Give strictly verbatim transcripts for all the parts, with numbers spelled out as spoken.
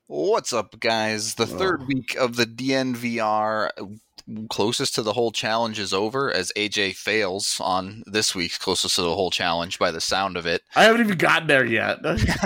What's up, guys? The third Oh. week of the D N V R closest to the whole challenge is over as A J fails on this week's closest to the whole challenge by the sound of it. I haven't even gotten there yet.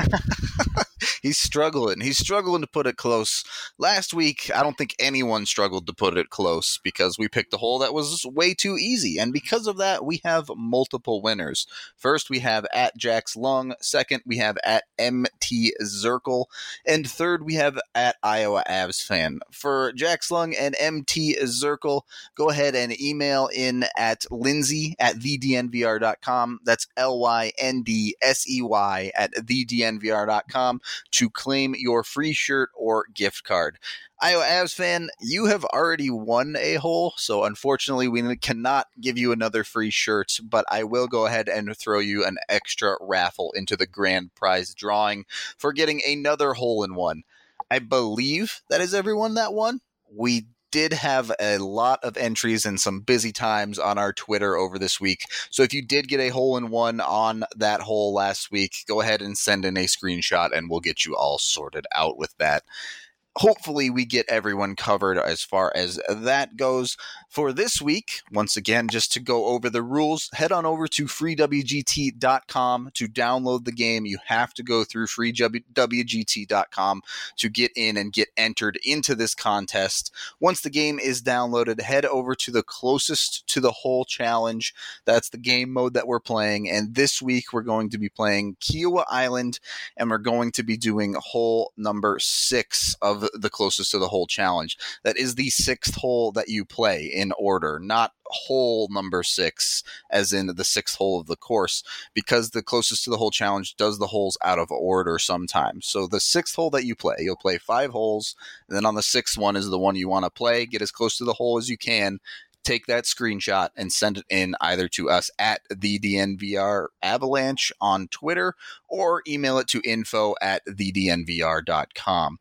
He's struggling. He's struggling to put it close. Last week, I don't think anyone struggled to put it close because we picked a hole that was way too easy. And because of that, we have multiple winners. First, we have at Jax Lung. Second, we have at M T Zirkle. And third, we have at Iowa Avs Fan. For Jax Lung and M T Zirkle, go ahead and email in at Lindsay at the D N V R dot com. That's L Y N D S E Y at the D N V R dot com. to claim your free shirt or gift card. Iowa Avs Fan, you have already won a hole, so unfortunately we cannot give you another free shirt, but I will go ahead and throw you an extra raffle into the grand prize drawing for getting another hole in one. I believe that is everyone that won. We did have a lot of entries and some busy times on our Twitter over this week. So if you did get a hole in one on that hole last week, go ahead and send in a screenshot and we'll get you all sorted out with that. Hopefully we get everyone covered as far as that goes. For this week, once again, just to go over the rules, head on over to free w g t dot com to download the game. You have to go through free w g t dot com to get in and get entered into this contest. Once the game is downloaded, head over to the closest to the hole challenge. That's the game mode that we're playing. And this week we're going to be playing Kiowa Island, and we're going to be doing hole number six of the closest to the hole challenge. That is the sixth hole that you play in order, not hole number six as in the sixth hole of the course, because the closest to the hole challenge does the holes out of order sometimes. So the sixth hole that you play, you'll play five holes, and then on the sixth one is the one you want to play. Get as close to the hole as you can. Take that screenshot and send it in either to us at the D N V R Avalanche on Twitter or email it to info at the D N V R dot com.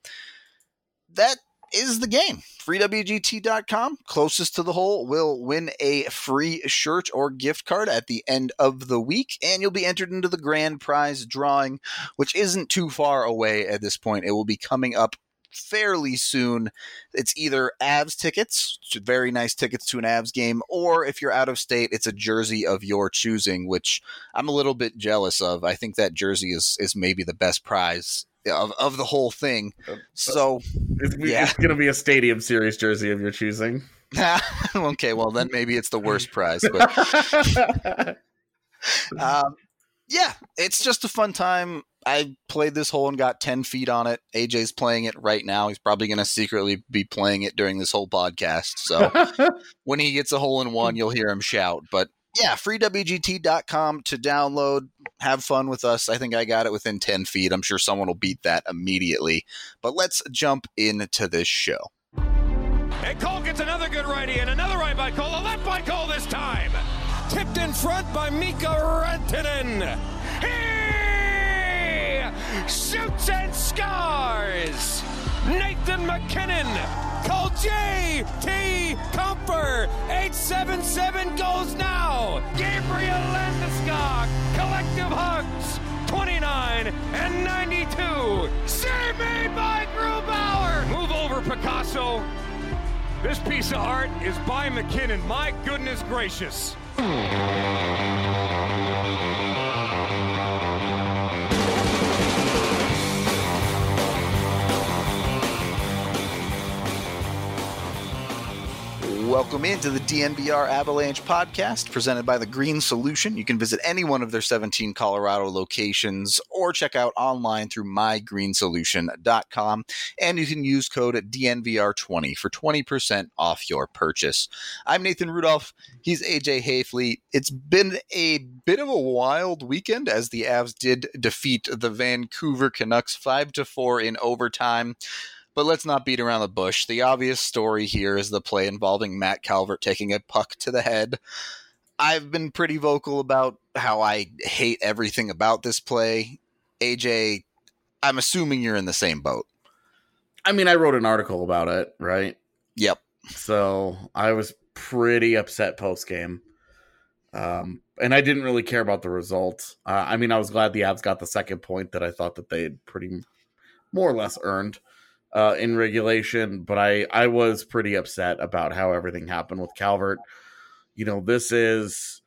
That is the game. free w g t dot com, closest to the hole, will win a free shirt or gift card at the end of the week, and you'll be entered into the grand prize drawing, which isn't too far away at this point. It will be coming up fairly soon. It's either Avs tickets, very nice tickets to an Avs game, or if you're out of state, it's a jersey of your choosing, which I'm a little bit jealous of. I think that jersey is is maybe the best prize Of, of the whole thing. So it's, yeah. It's going to be a Stadium Series jersey of your choosing. Okay, well then maybe it's the worst prize. But um, yeah, it's just a fun time. I played this hole and got ten feet on it. A J's playing it right now. He's probably going to secretly be playing it during this whole podcast. So when he gets a hole in one, you'll hear him shout. But yeah, free w g t dot com to download. Have fun with us. I think I got it within ten feet. I'm sure someone will beat that immediately. But let's jump into this show. And Cole gets another good righty and another right by Cole. A left by Cole this time. Tipped in front by Mika Rantanen. He shoots and scores. Nathan MacKinnon. Call J T Comfer. eight seven seven goes now. Gabriel Landeskog. Collective hugs. twenty-nine and ninety-two. Save made by Grubauer. Move over, Picasso. This piece of art is by McKinnon. My goodness gracious. Welcome into the D N V R Avalanche podcast presented by The Green Solution. You can visit any one of their seventeen Colorado locations or check out online through my green solution dot com. And you can use code D N V R twenty for twenty percent off your purchase. I'm Nathan Rudolph. He's A J Hayfleet. It's been a bit of a wild weekend as the Avs did defeat the Vancouver Canucks five to four in overtime. But let's not beat around the bush. The obvious story here is the play involving Matt Calvert taking a puck to the head. I've been pretty vocal about how I hate everything about this play. A J, I'm assuming you're in the same boat. I mean, I wrote an article about it, right? Yep. So I was pretty upset post-game. Um, and I didn't really care about the result. Uh, I mean, I was glad the Avs got the second point that I thought that they had pretty more or less earned. uh, in regulation, but I, I was pretty upset about how everything happened with Calvert. You know, this is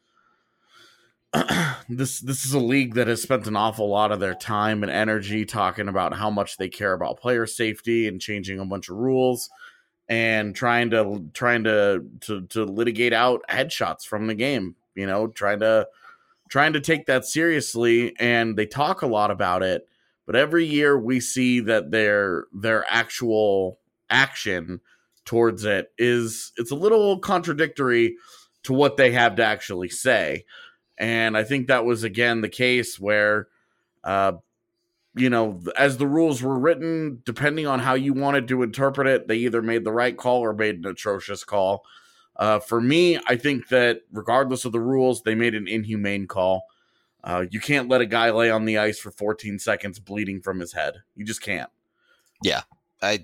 this this is a league that has spent an awful lot of their time and energy talking about how much they care about player safety and changing a bunch of rules and trying to trying to to, to litigate out headshots from the game. You know, trying to trying to take that seriously, and they talk a lot about it. But every year we see that their their actual action towards it is it's a little contradictory to what they have to actually say. And I think that was, again, the case where, uh, you know, as the rules were written, depending on how you wanted to interpret it, they either made the right call or made an atrocious call. Uh, for me, I think that regardless of the rules, they made an inhumane call. Uh, you can't let a guy lay on the ice for fourteen seconds bleeding from his head. You just can't. Yeah, I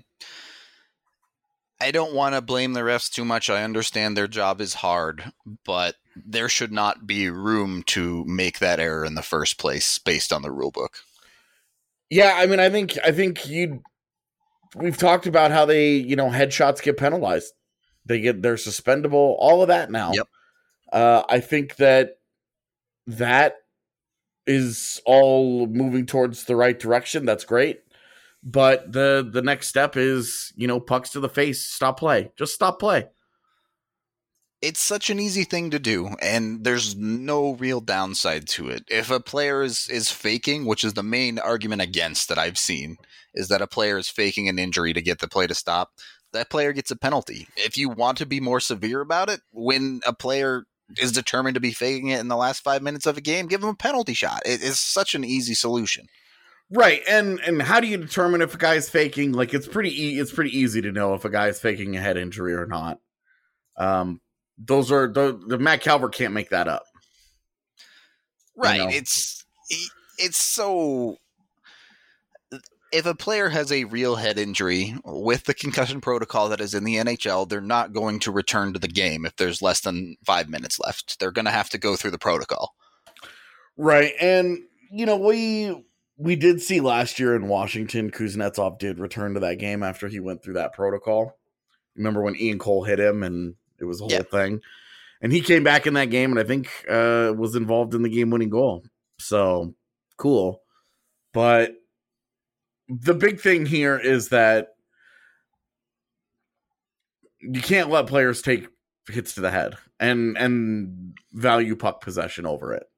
I don't want to blame the refs too much. I understand their job is hard, but there should not be room to make that error in the first place based on the rule book. Yeah, I mean, I think I think you. We've talked about how they, you know, headshots get penalized. They get they're suspendable. All of that now. Yep. Uh, I think that that is all moving towards the right direction. That's great. But the the next step is, you know, pucks to the face, stop play. Just stop play. It's such an easy thing to do, and there's no real downside to it. If a player is, is faking, which is the main argument against that I've seen, is that a player is faking an injury to get the play to stop, that player gets a penalty. If you want to be more severe about it, when a player is determined to be faking it in the last five minutes of a game, give him a penalty shot. It is such an easy solution. Right, and and how do you determine if a guy's faking? Like, it's pretty e- it's pretty easy to know if a guy's faking a head injury or not. Um, those are the, the Matt Calvert can't make that up. Right, You know? it's it's so. If a player has a real head injury with the concussion protocol that is in the N H L, they're not going to return to the game if there's less than five minutes left. They're going to have to go through the protocol. Right, and you know we. We did see last year in Washington, Kuznetsov did return to that game after he went through that protocol. Remember when Ian Cole hit him and it was a whole yeah. thing? And he came back in that game and I think uh, was involved in the game-winning goal. So, cool. But the big thing here is that you can't let players take hits to the head and, and value puck possession over it.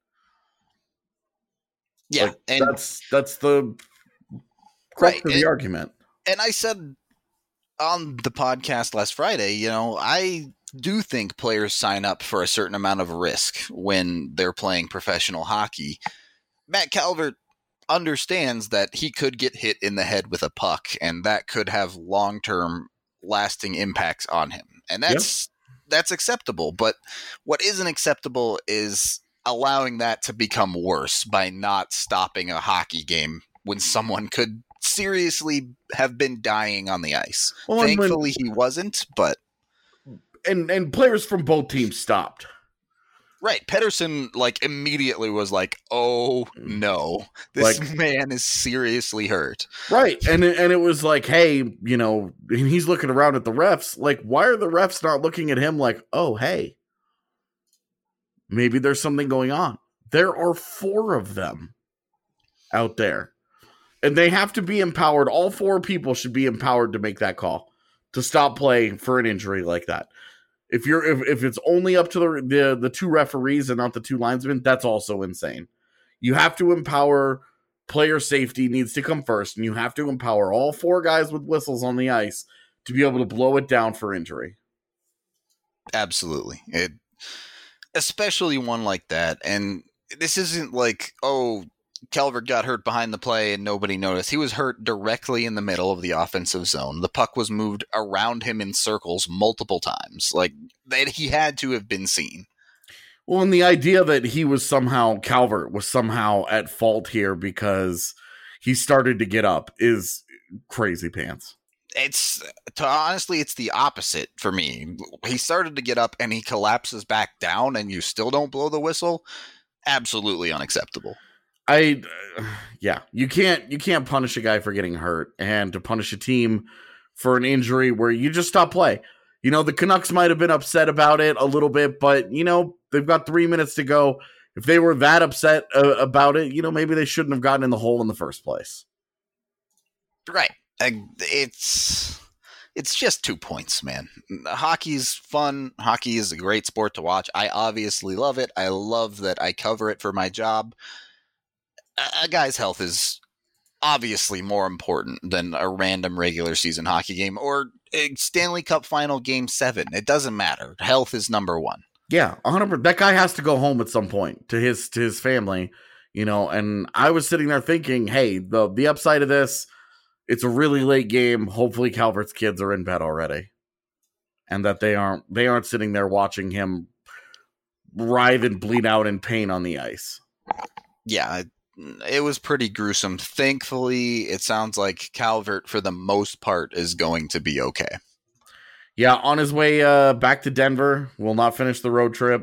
Yeah, like, and that's that's the crux right, of the and, argument. And I said on the podcast last Friday, you know, I do think players sign up for a certain amount of risk when they're playing professional hockey. Matt Calvert understands that he could get hit in the head with a puck, and that could have long-term lasting impacts on him. And that's yeah. that's acceptable. But what isn't acceptable is allowing that to become worse by not stopping a hockey game when someone could seriously have been dying on the ice. Well, Thankfully, when, he wasn't, but and and players from both teams stopped. Right, Pettersson like immediately was like, "Oh no, this like, man is seriously hurt." Right, and and it was like, hey, you know, and he's looking around at the refs, like, why are the refs not looking at him like, oh, hey, maybe there's something going on? There are four of them out there. And they have to be empowered. All four people should be empowered to make that call, to stop play for an injury like that. If you're if, if it's only up to the, the the two referees and not the two linesmen, that's also insane. You have to empower player safety needs to come first, and you have to empower all four guys with whistles on the ice to be able to blow it down for injury. Absolutely. It especially one like that. And this isn't like, oh, Calvert got hurt behind the play and nobody noticed. He was hurt directly in the middle of the offensive zone. The puck was moved around him in circles multiple times. Like, that he had to have been seen. Well, and the idea that he was somehow, Calvert was somehow at fault here because he started to get up is crazy pants. It's, to, honestly, it's the opposite for me. He started to get up and he collapses back down and you still don't blow the whistle. Absolutely unacceptable. I, uh, yeah, you can't you can't punish a guy for getting hurt, and to punish a team for an injury where you just stop play. You know, the Canucks might have been upset about it a little bit, but you know they've got three minutes to go. If they were that upset uh, about it, you know maybe they shouldn't have gotten in the hole in the first place. Right. It's it's just two points, man. Hockey's fun. Hockey is a great sport to watch. I obviously love it. I love that I cover it for my job. A guy's health is obviously more important than a random regular season hockey game or a Stanley Cup final game seven. It doesn't matter. Health is number one. Yeah, one hundred percent. That guy has to go home at some point to his to his family, you know, and I was sitting there thinking, hey, the the upside of this, it's a really late game. Hopefully Calvert's kids are in bed already. And that they aren't they aren't sitting there watching him writhe and bleed out in pain on the ice. Yeah, it was pretty gruesome. Thankfully, it sounds like Calvert, for the most part, is going to be okay. Yeah, on his way uh, back to Denver, will not finish the road trip.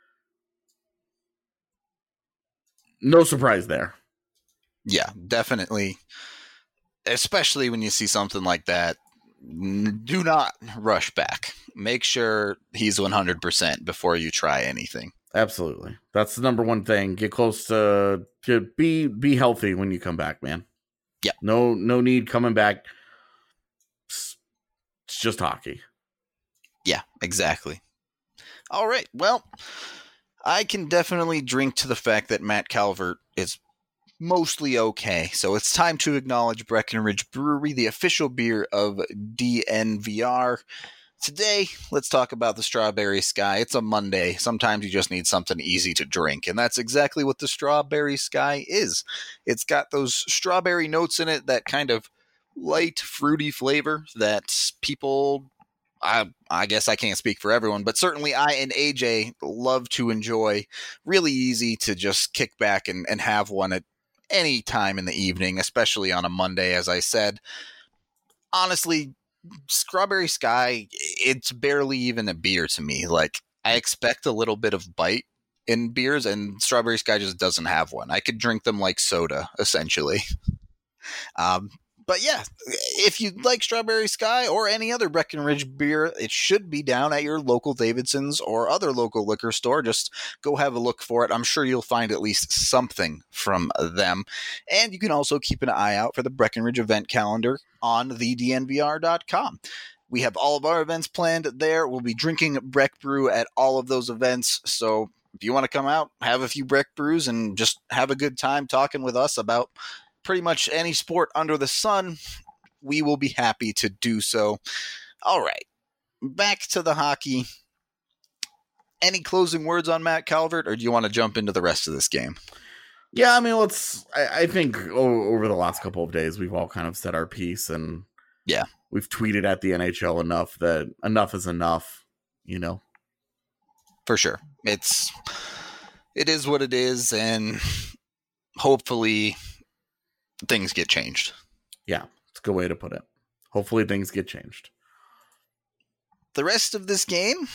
No surprise there. Yeah, definitely. Especially when you see something like that, do not rush back. Make sure he's one hundred percent before you try anything. Absolutely. That's the number one thing. Get close to, to be be healthy when you come back, man. Yeah. No no need coming back. It's just hockey. Yeah, exactly. All right. Well, I can definitely drink to the fact that Matt Calvert is mostly okay. So it's time to acknowledge Breckenridge Brewery, the official beer of D N V R. Today, let's talk about the Strawberry Sky. It's a Monday. Sometimes you just need something easy to drink, and that's exactly what the Strawberry Sky is. It's got those strawberry notes in it, that kind of light, fruity flavor that people, I, I guess I can't speak for everyone, but certainly I and A J love to enjoy. Really easy to just kick back and, and have one at any time in the evening, especially on a Monday, as I said. Honestly, Strawberry Sky, it's barely even a beer to me. Like, I expect a little bit of bite in beers, and Strawberry Sky just doesn't have one. I could drink them like soda, essentially. Um, but yeah, if you like Strawberry Sky or any other Breckenridge beer, it should be down at your local Davidson's or other local liquor store. Just go have a look for it. I'm sure you'll find at least something from them. And you can also keep an eye out for the Breckenridge event calendar on the D N V R dot com. We have all of our events planned there. We'll be drinking Breck Brew at all of those events. So if you want to come out, have a few Breck Brews, and just have a good time talking with us about pretty much any sport under the sun, we will be happy to do so. All right, back to the hockey. Any closing words on Matt Calvert, or do you want to jump into the rest of this game? Yeah, I mean, let's. I, I think o- over the last couple of days, we've all kind of said our piece, and yeah, we've tweeted at the N H L enough that enough is enough. You know, for sure, it's it is what it is, and hopefully things get changed. Yeah, it's a good way to put it. Hopefully things get changed. The rest of this game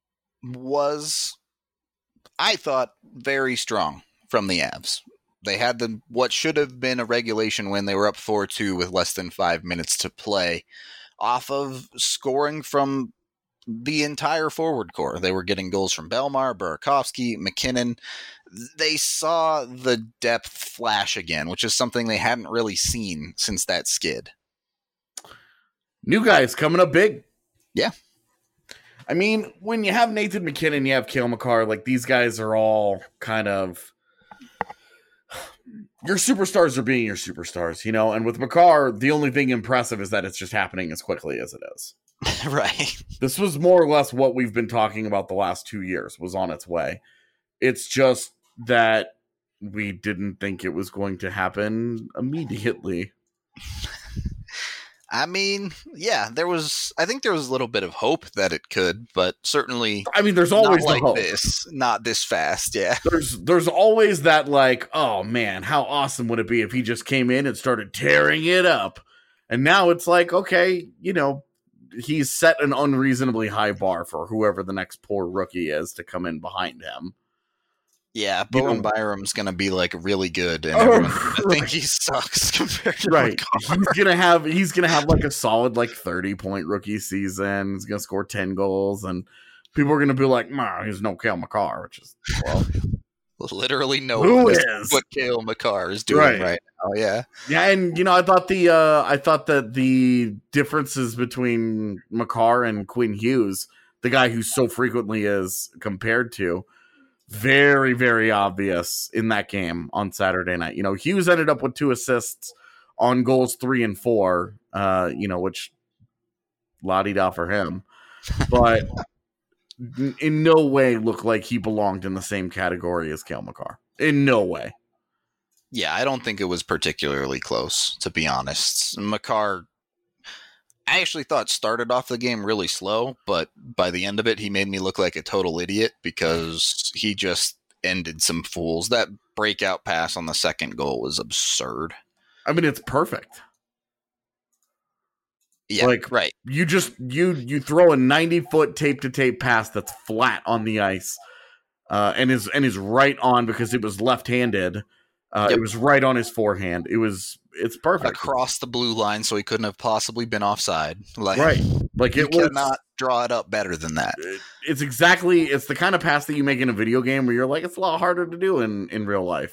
was, I thought, very strong from the Avs. They had the what should have been a regulation win. They were up four two with less than five minutes to play off of scoring from the entire forward core. They were getting goals from Belmar, Burakovsky, McKinnon. They saw the depth flash again, which is something they hadn't really seen since that skid. New guys coming up big. Yeah. I mean, when you have Nathan McKinnon, you have Cale Makar, like these guys are all kind of, your superstars are being your superstars, you know? And with Makar, the only thing impressive is that it's just happening as quickly as it is. Right. This was more or less what we've been talking about the last two years, was on its way. It's just that we didn't think it was going to happen immediately. I mean, yeah, there was, I think there was a little bit of hope that it could, but certainly, I mean, there's always not like the hope. this, not this fast. Yeah. There's, there's always that like, oh man, how awesome would it be if he just came in and started tearing it up? And now it's like, okay, you know, he's set an unreasonably high bar for whoever the next poor rookie is to come in behind him. Yeah, You Bowen know- Byram's going to be like really good, and Oh, everyone's going to right. think he sucks compared to Right. McCarr. He's gonna have he's gonna have like a solid like thirty point rookie season. He's gonna score ten goals, and people are gonna be like, "Ma, he's no Cale Makar," which is well, Literally no Who one is? is what Cale Makar is doing Right. right, now. Yeah, yeah. And you know, I thought the uh I thought that the differences between Makar and Quinn Hughes, the guy who so frequently is compared to, very very obvious in that game on Saturday night. You know, Hughes ended up with two assists on goals three and four. Uh, you know, which la-di-da for him, but in no way looked like he belonged in the same category as Cale Makar. In no way. yeah. I don't think it was particularly close, to be honest. Makar, I actually thought started off the game really slow, but by the end of it, he made me look like a total idiot because he just ended some fools. That breakout pass on the second goal was absurd. I mean, it's perfect. Yeah, Like- right. You just you you throw a ninety foot tape to tape pass that's flat on the ice, uh, and is and is right on because it was left handed. Uh, Yep. It was right on his forehand. It was it's perfect. Across the blue line, so he couldn't have possibly been offside. Like, Right. Like you it was cannot draw it up better than that. it's exactly it's the kind of pass that you make in a video game where you're like, it's a lot harder to do in in real life.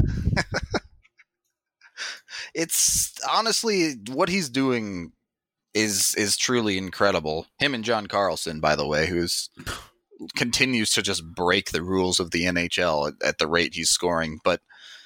It's honestly what he's doing is is truly incredible. Him and John Carlson, by the way, who's continues to just break the rules of the N H L at, at the rate he's scoring. But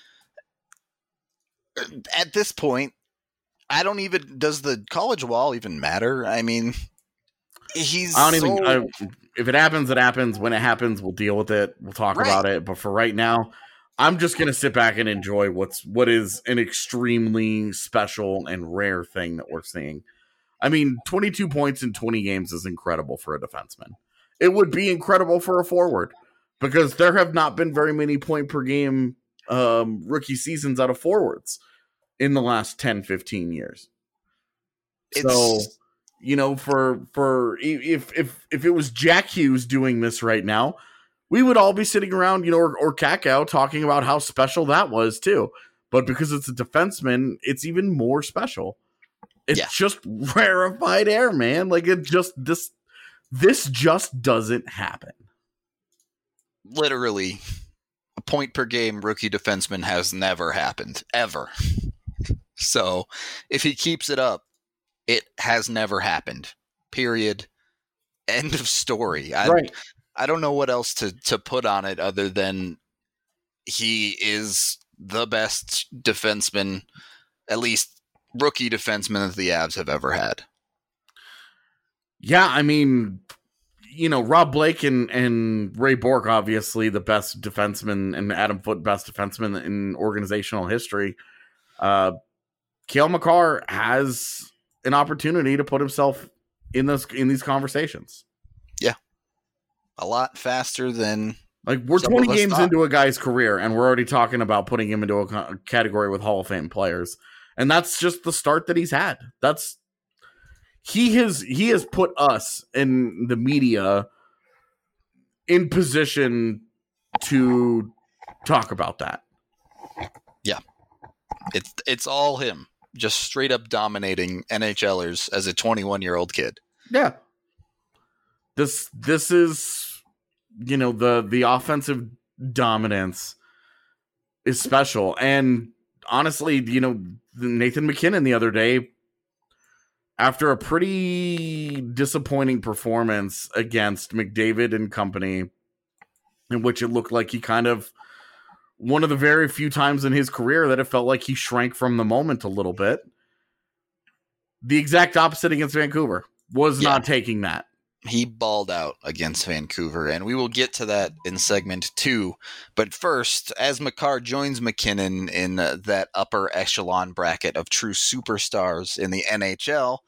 at this point, I don't even does the college wall even matter? I mean, he's I don't even. so- I, if it happens, it happens. When it happens, we'll deal with it. We'll talk Right. about it. But for right now, I'm just gonna sit back and enjoy what's what is an extremely special and rare thing that we're seeing. I mean, twenty-two points in twenty games is incredible for a defenseman. It would be incredible for a forward because there have not been very many point per game um, rookie seasons out of forwards in the last ten, fifteen years. So, It's- you know, for for if if if it was Jack Hughes doing this right now, we would all be sitting around, you know, or, or Kakao talking about how special that was too. But because it's a defenseman, it's even more special. It's Yeah. just rarefied air, man. Like it just this this just doesn't happen. literally a point per game rookie defenseman has never happened ever. So if he keeps it up, it has never happened. Period. End of story. I, Right. I don't know what else to, to put on it other than he is the best defenseman, at least rookie defenseman that the Avs have ever had. Yeah, I mean, you know, Rob Blake and, and Ray Bork, obviously the best defenseman, and Adam Foote, best defenseman in organizational history. Uh, Cale Makar has an opportunity to put himself in those in these conversations. A lot faster than Like we're Some twenty of us games thought. into a guy's career, and we're already talking about putting him into a co- category with Hall of Fame players, and that's just the start that he's had. That's he has he has put us in the media in position to talk about that. it's it's all him. Just straight up dominating NHLers as a twenty-one year old kid. Yeah, this this is you know the the offensive dominance is special, and honestly, you know Nathan MacKinnon the other day, after a pretty disappointing performance against McDavid and company, in which it looked like he kind of one of the very few times in his career that it felt like he shrank from the moment a little bit. The exact opposite against Vancouver. Was Yeah. not taking that. He balled out against Vancouver, and we will get to that in segment two. But first, as Makar joins McKinnon in uh, that upper echelon bracket of true superstars in the N H L,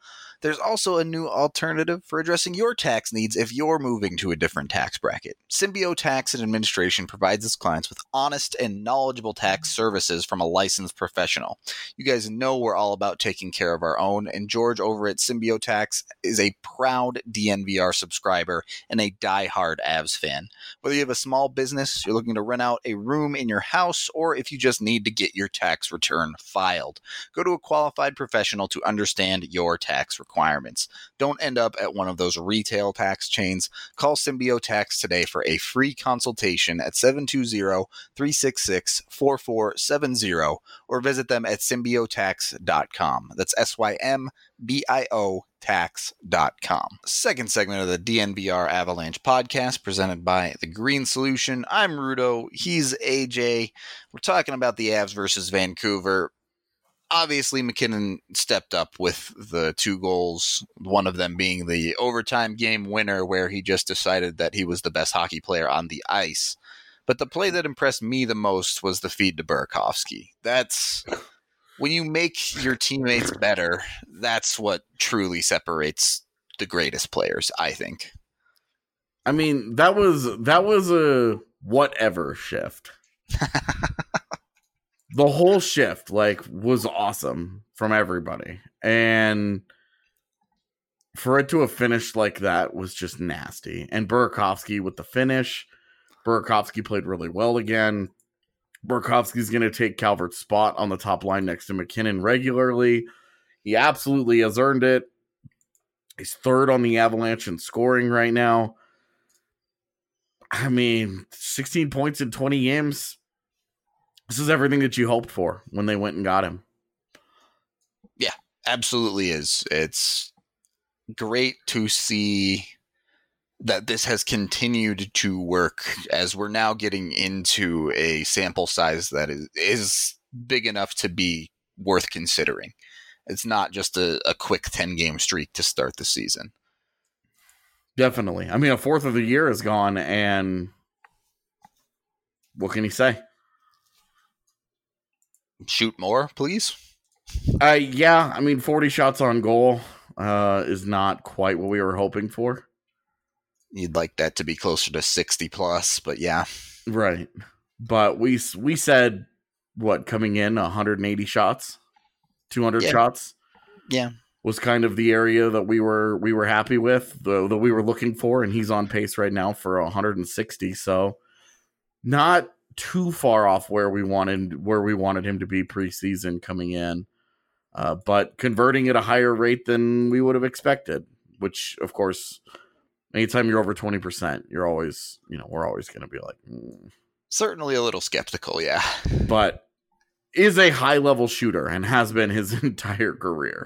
There's also a new alternative for addressing your tax needs if you're moving to a different tax bracket. Symbio Tax and Administration provides its clients with honest and knowledgeable tax services from a licensed professional. You guys know we're all about taking care of our own, and George over at Symbio Tax is a proud D N V R subscriber and a die-hard Avs fan. Whether you have a small business, you're looking to rent out a room in your house, or if you just need to get your tax return filed, go to a qualified professional to understand your tax requirements. Don't end up at one of those retail tax chains. Call Symbio Tax today for a free consultation at seven two zero, three six six, four four seven zero or visit them at symbio tax dot com. That's S Y M B I O tax dot com. Second segment of the D N V R Avalanche podcast presented by The Green Solution. I'm Rudo. He's A J. We're talking about the Avs versus Vancouver. Obviously, MacKinnon stepped up with the two goals, one of them being the overtime game winner where he just decided that he was the best hockey player on the ice. But the play that impressed me the most was the feed to Burakovsky. That's when you make your teammates better, that's what truly separates the greatest players, I think. I mean, that was that was a whatever shift. The whole shift, like, was awesome from everybody. And for it to have finished like that was just nasty. And Burakovsky with the finish, Burakovsky played really well again. Burakovsky's going to take Calvert's spot on the top line next to MacKinnon regularly. He absolutely has earned it. He's third on the Avalanche in scoring right now. I mean, sixteen points in twenty games. This is everything that you hoped for when they went and got him. Yeah, absolutely is. It's great to see that this has continued to work as we're now getting into a sample size that is, is big enough to be worth considering. It's not just a, a quick ten-game streak to start the season. Definitely. I mean, a fourth of the year is gone, and what can he say? Shoot more, please. Uh, yeah, I mean, forty shots on goal uh, is not quite what we were hoping for. You'd like that to be closer to sixty plus, but yeah. Right. But we we said, what, coming in one hundred eighty shots? two hundred yeah. shots? Yeah. Was kind of the area that we were we were happy with, the, that we were looking for, and he's on pace right now for one hundred sixty, so not too far off where we wanted where we wanted him to be preseason coming in, uh, but converting at a higher rate than we would have expected. Which, of course, anytime you're over twenty percent, you're always, you know, we're always going to be like, mm. Certainly a little skeptical, yeah. But is a high level shooter and has been his entire career.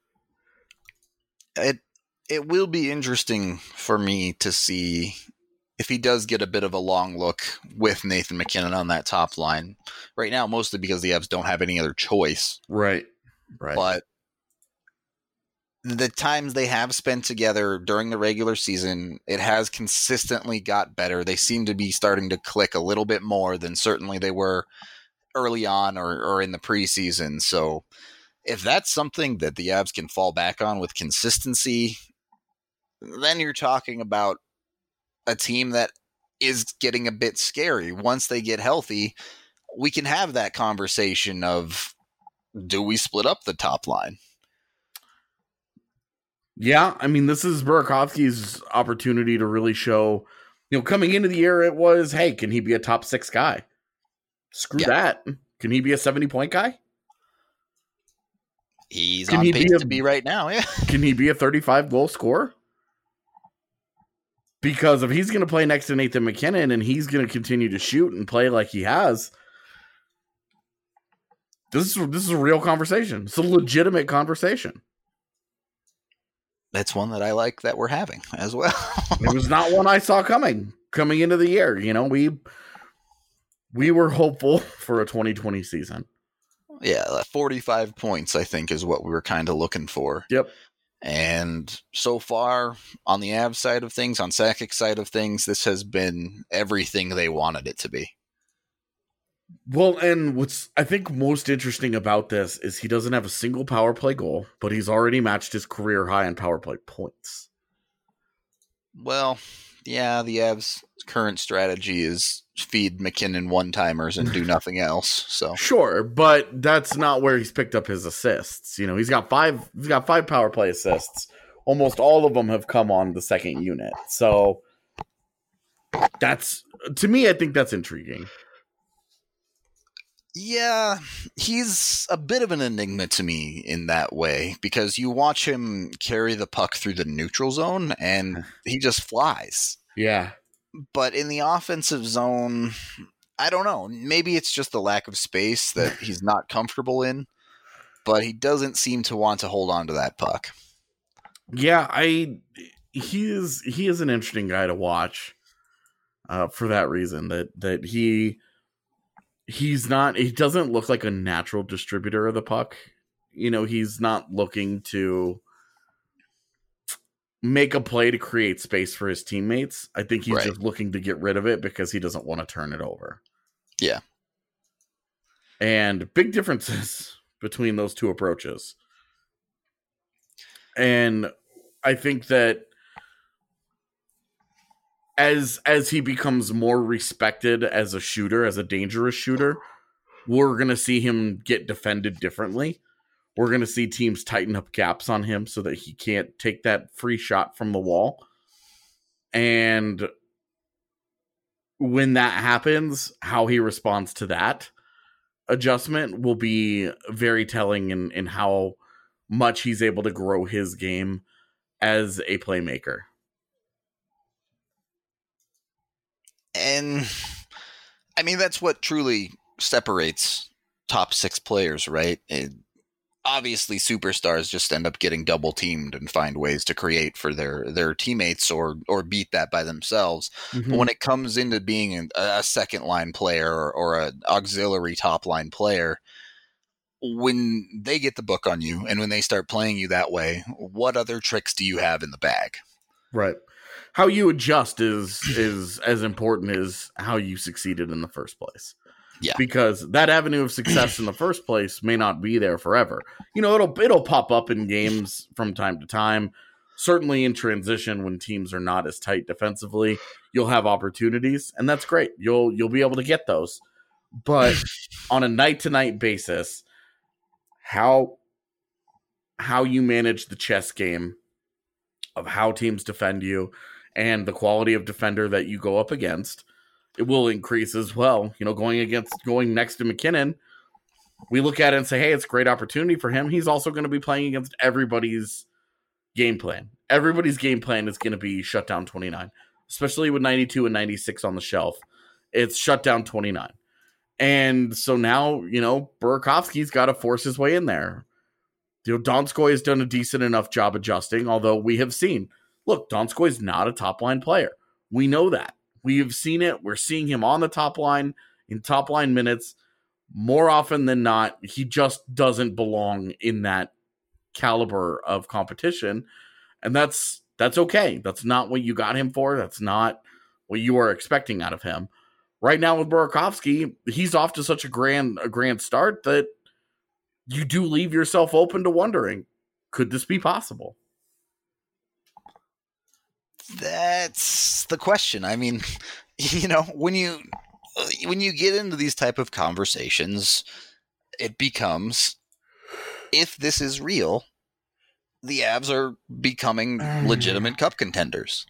It it will be interesting for me to see if he does get a bit of a long look with Nathan MacKinnon on that top line right now, mostly because the Avs don't have any other choice. Right. Right. But the times they have spent together during the regular season, it has consistently got better. They seem to be starting to click a little bit more than certainly they were early on or, or in the preseason. So if that's something that the Avs can fall back on with consistency, then you're talking about a team that is getting a bit scary. Once they get healthy, we can have that conversation of, do we split up the top line? Yeah, I mean, this is Burakovsky's opportunity to really show, you know, coming into the year, it was, hey, can he be a top six guy? Screw yeah. that. Can he be a seventy-point guy? He's can on he pace be a, to be right now, yeah. Can he be a thirty-five goal scorer? Because if he's going to play next to Nathan MacKinnon and he's going to continue to shoot and play like he has, this is this is a real conversation. It's a legitimate conversation. That's one that I like that we're having as well. It was not one I saw coming, coming into the year. You know, we we were hopeful for a twenty twenty season. Yeah, forty-five points, I think, is what we were kind of looking for. Yep. And so far, on the Avs side of things, on Sakic's side of things, this has been everything they wanted it to be. Well, and what's I think most interesting about this is he doesn't have a single power play goal, but he's already matched his career high in power play points. Well, yeah, the Avs' current strategy is feed McKinnon one-timers and do nothing else. So sure, but that's not where he's picked up his assists. You know, he's got five. He's got five power play assists. Almost all of them have come on the second unit. So that's, to me, I think that's intriguing. Yeah, he's a bit of an enigma to me in that way, because you watch him carry the puck through the neutral zone and he just flies. Yeah. But in the offensive zone, I don't know. Maybe it's just the lack of space that he's not comfortable in, but he doesn't seem to want to hold on to that puck. Yeah, I he is he is an interesting guy to watch uh, for that reason, that that he he's not he doesn't look like a natural distributor of the puck. You know, he's not looking to make a play to create space for his teammates. I think he's right. just looking to get rid of it because he doesn't want to turn it over. Yeah. And big differences between those two approaches. And I think that as as he becomes more respected as a shooter, as a dangerous shooter, we're going to see him get defended differently. We're going to see teams tighten up gaps on him so that he can't take that free shot from the wall. And when that happens, how he responds to that adjustment will be very telling in, in how much he's able to grow his game as a playmaker. And I mean, that's what truly separates top six players, right? It, obviously superstars just end up getting double teamed and find ways to create for their, their teammates or, or beat that by themselves. Mm-hmm. But when it comes into being a, a second line player or, or an auxiliary top line player, when they get the book on you and when they start playing you that way, what other tricks do you have in the bag? Right. How you adjust is is as important as how you succeeded in the first place. Yeah. Because that avenue of success in the first place may not be there forever. You know, it'll it'll pop up in games from time to time. Certainly in transition when teams are not as tight defensively, you'll have opportunities, and that's great. You'll you'll be able to get those. But on a night-to-night basis, how how you manage the chess game of how teams defend you and the quality of defender that you go up against, it will increase as well. You know, going against going next to McKinnon, we look at it and say, hey, it's a great opportunity for him. He's also going to be playing against everybody's game plan. Everybody's game plan is going to be shut down twenty-nine, especially with ninety-two and ninety-six on the shelf. It's shut down twenty-nine. And so now, you know, Burakovsky's got to force his way in there. You know, Donskoy has done a decent enough job adjusting, although we have seen, look, Donskoy's not a top-line player. We know that. We have seen it. We're seeing him on the top line in top-line minutes more often than not. He just doesn't belong in that caliber of competition, and that's that's okay. That's not what you got him for. That's not what you are expecting out of him. Right now with Burakovsky, he's off to such a grand a grand start that you do leave yourself open to wondering, could this be possible? That's the question. I mean, you know, when you when you get into these type of conversations, it becomes, if this is real, the Avs are becoming legitimate cup contenders.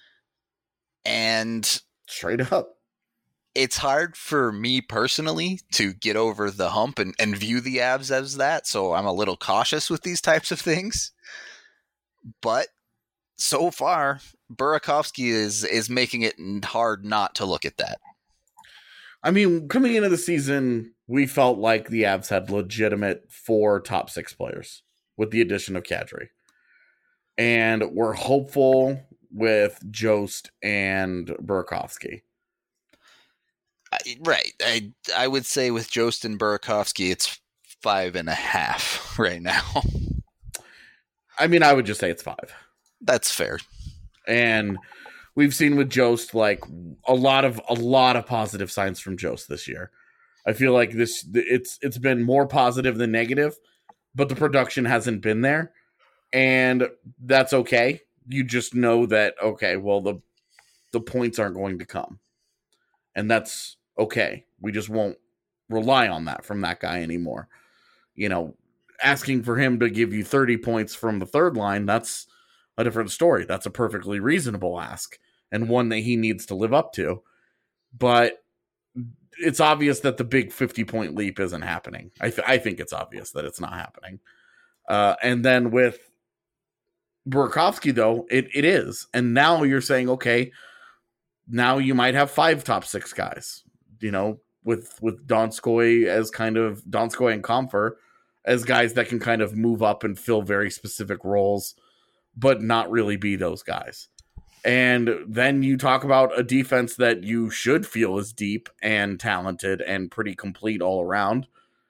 And straight up, it's hard for me personally to get over the hump and, and view the Avs as that. So I'm a little cautious with these types of things. But so far, Burakovsky is is making it hard not to look at that. I mean, coming into the season, we felt like the Avs had legitimate four top six players with the addition of Kadri. And we're hopeful with Jost and Burakovsky. I, right. I I would say with Jost and Burakovsky, it's five and a half right now. I mean, I would just say it's five. That's fair. And we've seen with Jost, like, a lot of a lot of positive signs from Jost this year. I feel like this it's it's been more positive than negative, but the production hasn't been there, and that's okay. You just know that okay, well the the points aren't going to come, and that's okay. We just won't rely on that from that guy anymore. You know, asking for him to give you thirty points from the third line, that's a different story. That's a perfectly reasonable ask and one that he needs to live up to. But it's obvious that the big fifty-point leap isn't happening. I, th- I think it's obvious that it's not happening. Uh, and then with Burakovsky, though, it, it is. And now you're saying, okay, now you might have five top six guys, you know, with, with Donskoy as kind of, Donskoy and Comfer as guys that can kind of move up and fill very specific roles, but not really be those guys. And then you talk about a defense that you should feel is deep and talented and pretty complete all around.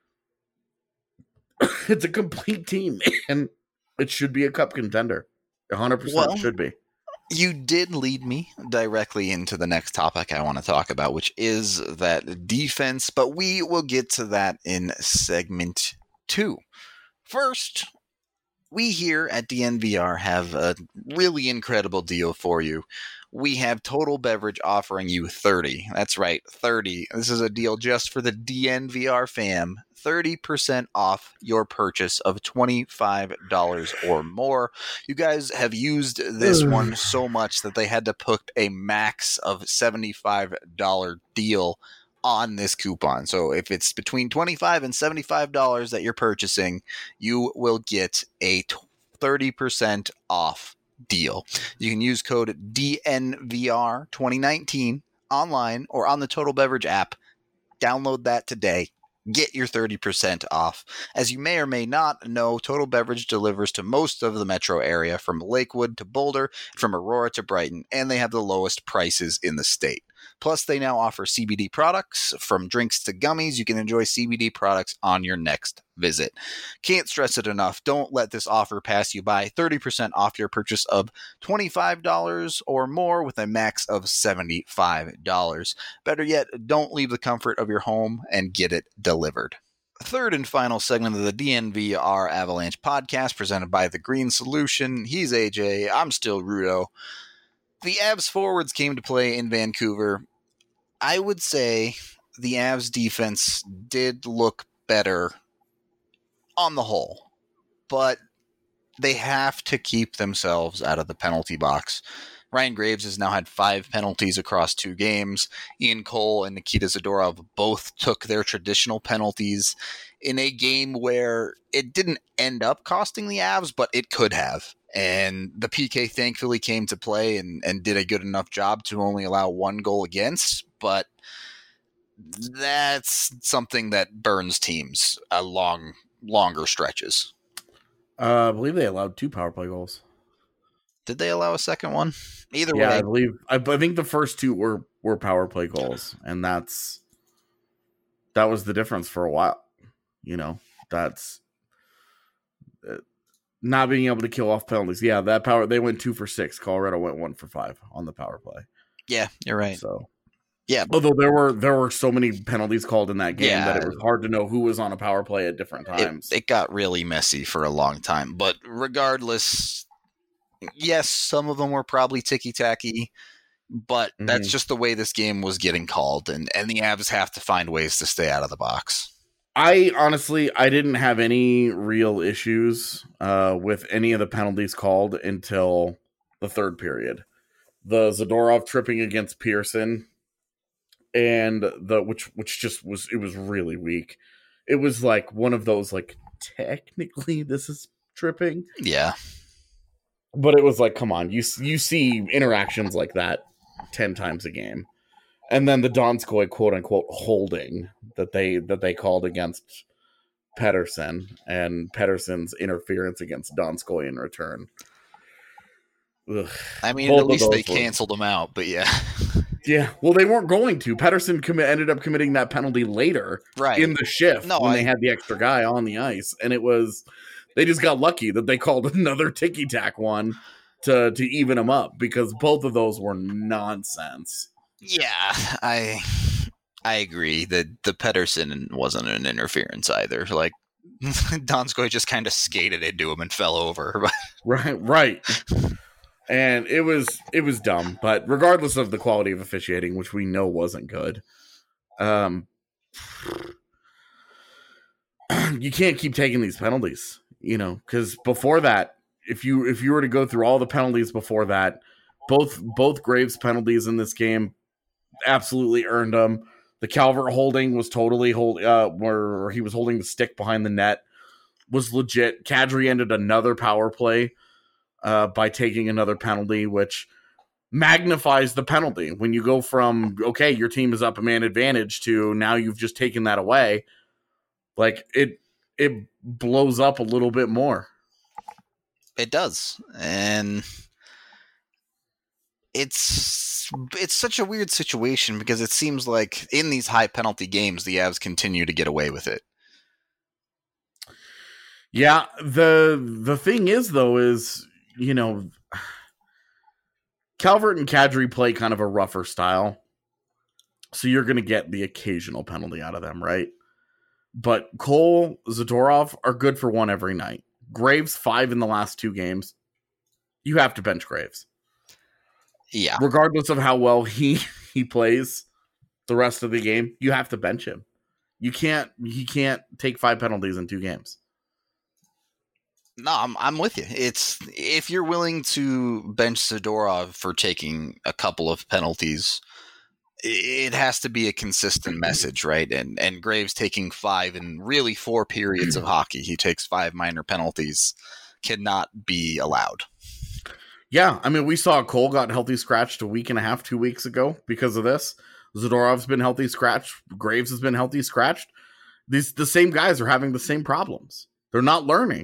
It's a complete team, and it should be a cup contender. one hundred percent well, should be. You did lead me directly into the next topic I want to talk about, which is that defense, but we will get to that in segment two. First, we here at D N V R have a really incredible deal for you. We have Total Beverage offering you thirty. That's right, thirty. This is a deal just for the D N V R fam. thirty percent off your purchase of twenty-five dollars or more. You guys have used this one so much that they had to put a max of seventy-five dollars deal on this coupon. So if it's between twenty-five dollars and seventy-five dollars that you're purchasing, you will get a thirty percent off deal. You can use code D N V R twenty nineteen online or on the Total Beverage app. Download that today. Get your thirty percent off. As you may or may not know, Total Beverage delivers to most of the metro area, from Lakewood to Boulder, from Aurora to Brighton, and they have the lowest prices in the state. Plus, they now offer C B D products. From drinks to gummies, you can enjoy C B D products on your next visit. Can't stress it enough. Don't let this offer pass you by. thirty percent off your purchase of twenty-five dollars or more with a max of seventy-five dollars. Better yet, don't leave the comfort of your home and get it delivered. Third and final segment of the D N V R Avalanche podcast presented by The Green Solution. He's A J. I'm still Rudo. The Avs forwards came to play in Vancouver. I would say the Avs defense did look better on the whole, but they have to keep themselves out of the penalty box. Ryan Graves has now had five penalties across two games. Ian Cole and Nikita Zadorov both took their traditional penalties in a game where it didn't end up costing the Avs, but it could have. And the P K thankfully came to play and, and did a good enough job to only allow one goal against, but that's something that burns teams a long, longer stretches. Uh, I believe they allowed two power play goals. Did they allow a second one? Either yeah, way. I believe, I, I think the first two were, were power play goals, and that's, that was the difference for a while. You know, that's, uh, not being able to kill off penalties. Yeah, that power, they went two for six. Colorado went one for five on the power play. Yeah, you're right. So, yeah. Although there were there were so many penalties called in that game yeah, that it was hard to know wwho was on a power play at different times. It, it got really messy for a long time. But regardless, yes, some of them were probably ticky-tacky, but mm-hmm. that's just the way this game was getting called, and, and the Avs have to find ways to stay out of the box. I honestly, I didn't have any real issues uh, with any of the penalties called until the third period. The Zadorov tripping against Pearson, and the which which just was it was really weak. It was like one of those like technically this is tripping, yeah, but it was like come on, you you see interactions like that ten times a game. And then the Donskoy quote unquote holding that they that they called against Pettersson, and Pettersson's interference against Donskoy in return. Ugh. I mean, Both at least they were... canceled him out, but yeah. Yeah, well, they weren't going to. Pettersson com- ended up committing that penalty later right. in the shift no, when I... they had the extra guy on the ice. And it was, they just got lucky that they called another ticky-tack one to, to even them up, because both of those were nonsense. Yeah, I I agree that the Pedersen wasn't an interference either. Like, Donskoy just kind of skated into him and fell over. Right, right. And it was it was dumb, but regardless of the quality of officiating, which we know wasn't good, um, you can't keep taking these penalties, you know, because before that, if you if you were to go through all the penalties before that, both both Graves penalties in this game absolutely earned them. The Calvert holding was totally hold uh, where he was holding the stick behind the net was legit. Kadri ended another power play uh, by taking another penalty, which magnifies the penalty. When you go from, okay, your team is up a man advantage to now you've just taken that away, like it it blows up a little bit more. It does. And it's it's such a weird situation because it seems like in these high penalty games, the Avs continue to get away with it. Yeah, the the thing is, though, is, you know, Calvert and Kadri play kind of a rougher style, so you're going to get the occasional penalty out of them, right? But Cole, Zadorov are good for one every night. Graves, five in the last two games. You have to bench Graves. Yeah. Regardless of how well he, he plays the rest of the game, you have to bench him. You can't, he can't take five penalties in two games. No, I'm I'm with you. It's if you're willing to bench Zadorov for taking a couple of penalties, it has to be a consistent message, right? And and Graves taking five in really four periods of hockey, he takes five minor penalties, cannot be allowed. Yeah, I mean, we saw Cole got healthy scratched a week and a half, two weeks ago because of this. Zadorov's been healthy scratched. Graves has been healthy scratched. These the same guys are having the same problems. They're not learning.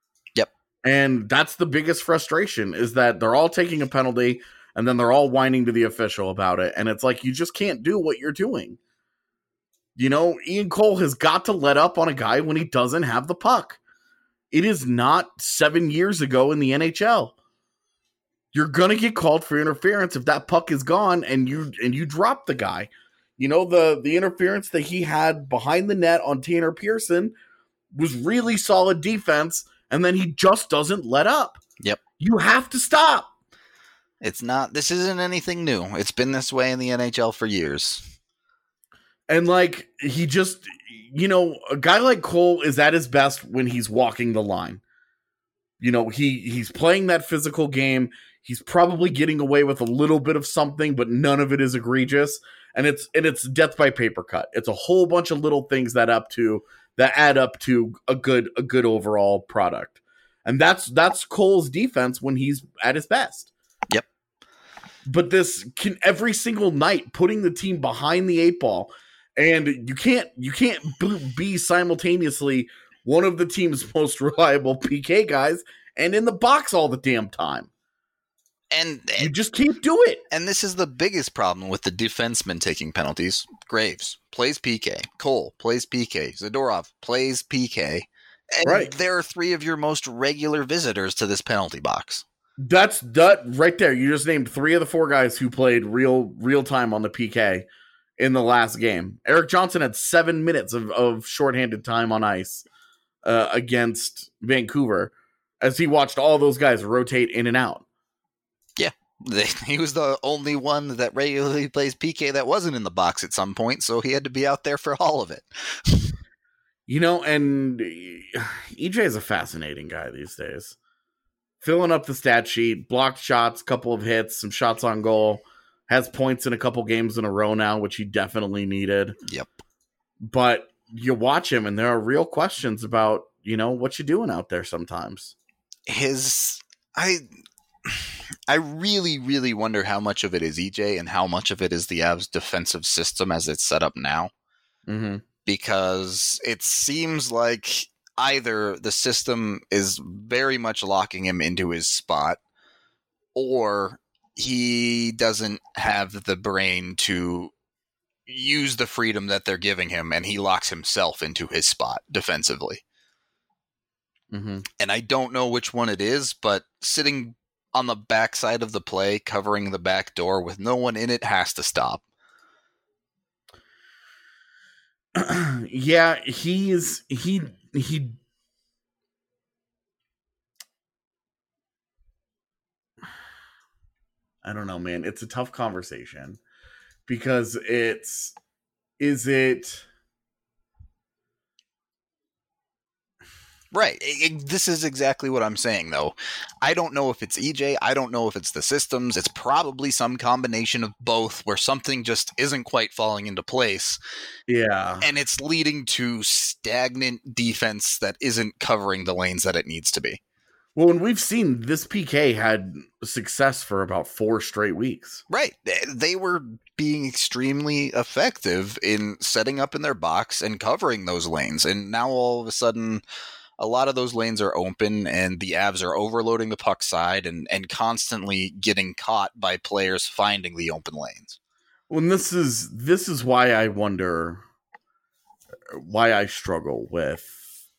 And that's the biggest frustration, is that they're all taking a penalty and then they're all whining to the official about it. And it's like, you just can't do what you're doing. You know, Ian Cole has got to let up on a guy when he doesn't have the puck. It is not seven years ago in the N H L. You're going to get called for interference if that puck is gone and you and you drop the guy. You know, the, the interference that he had behind the net on Tanner Pearson was really solid defense. And then he just doesn't let up. Yep. You have to stop. It's not, this isn't anything new. It's been this way in the N H L for years. And like, he just, you know, a guy like Cole is at his best when he's walking the line. You know, he he's playing that physical game. He's probably getting away with a little bit of something, but none of it is egregious. And it's, and it's death by paper cut. It's a whole bunch of little things that up to, that add up to a good a good overall product. And that's that's Cole's defense when he's at his best. Yep. But this can every single night putting the team behind the eight ball, and you can't you can't be simultaneously one of the team's most reliable P K guys and in the box all the damn time. And, and you just can't do it. And this is the biggest problem with the defensemen taking penalties. Graves plays P K. Cole plays P K. Zadorov plays P K. And right. There are three of your most regular visitors to this penalty box. That's that right there. You just named three of the four guys who played real real time on the P K in the last game. Erik Johnson had seven minutes of, of shorthanded time on ice uh, against Vancouver as he watched all those guys rotate in and out. Yeah, he was the only one that regularly plays P K that wasn't in the box at some point, so he had to be out there for all of it. You know, and E J is a fascinating guy these days. Filling up the stat sheet, blocked shots, couple of hits, some shots on goal, has points in a couple games in a row now, which he definitely needed. Yep. But you watch him, and there are real questions about, you know, what you doing out there sometimes. His, I... I really, really wonder how much of it is E J and how much of it is the Avs defensive system as it's set up now. Mm-hmm. Because it seems like either the system is very much locking him into his spot, or he doesn't have the brain to use the freedom that they're giving him, and he locks himself into his spot defensively. Mm-hmm. And I don't know which one it is, but sitting on the backside of the play, covering the back door with no one in it, has to stop. yeah, he's he he. I don't know, man. It's a tough conversation because it's is it right. It, it, this is exactly what I'm saying, though. I don't know if it's E J. I don't know if it's the systems. It's probably some combination of both where something just isn't quite falling into place. Yeah. And it's leading to stagnant defense that isn't covering the lanes that it needs to be. Well, and we've seen this P K had success for about four straight weeks. Right. They were being extremely effective in setting up in their box and covering those lanes. And now all of a sudden, a lot of those lanes are open and the Avs are overloading the puck side and, and constantly getting caught by players finding the open lanes. Well, and this is this is why I wonder why I struggle with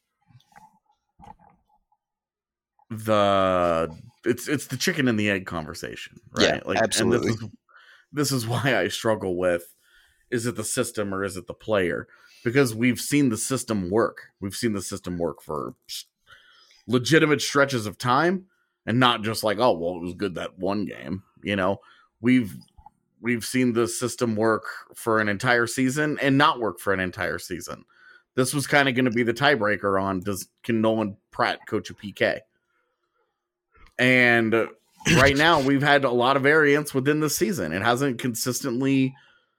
the it's it's the chicken and the egg conversation, right? Yeah, like absolutely. And this is, this is why I struggle with, is it the system or is it the player? Because we've seen the system work. We've seen the system work for legitimate stretches of time, and not just like, oh, well, it was good that one game. You know, we've we've seen the system work for an entire season and not work for an entire season. This was kind of going to be the tiebreaker on does can Nolan Pratt coach a P K? And right now, we've had a lot of variance within the season. It hasn't consistently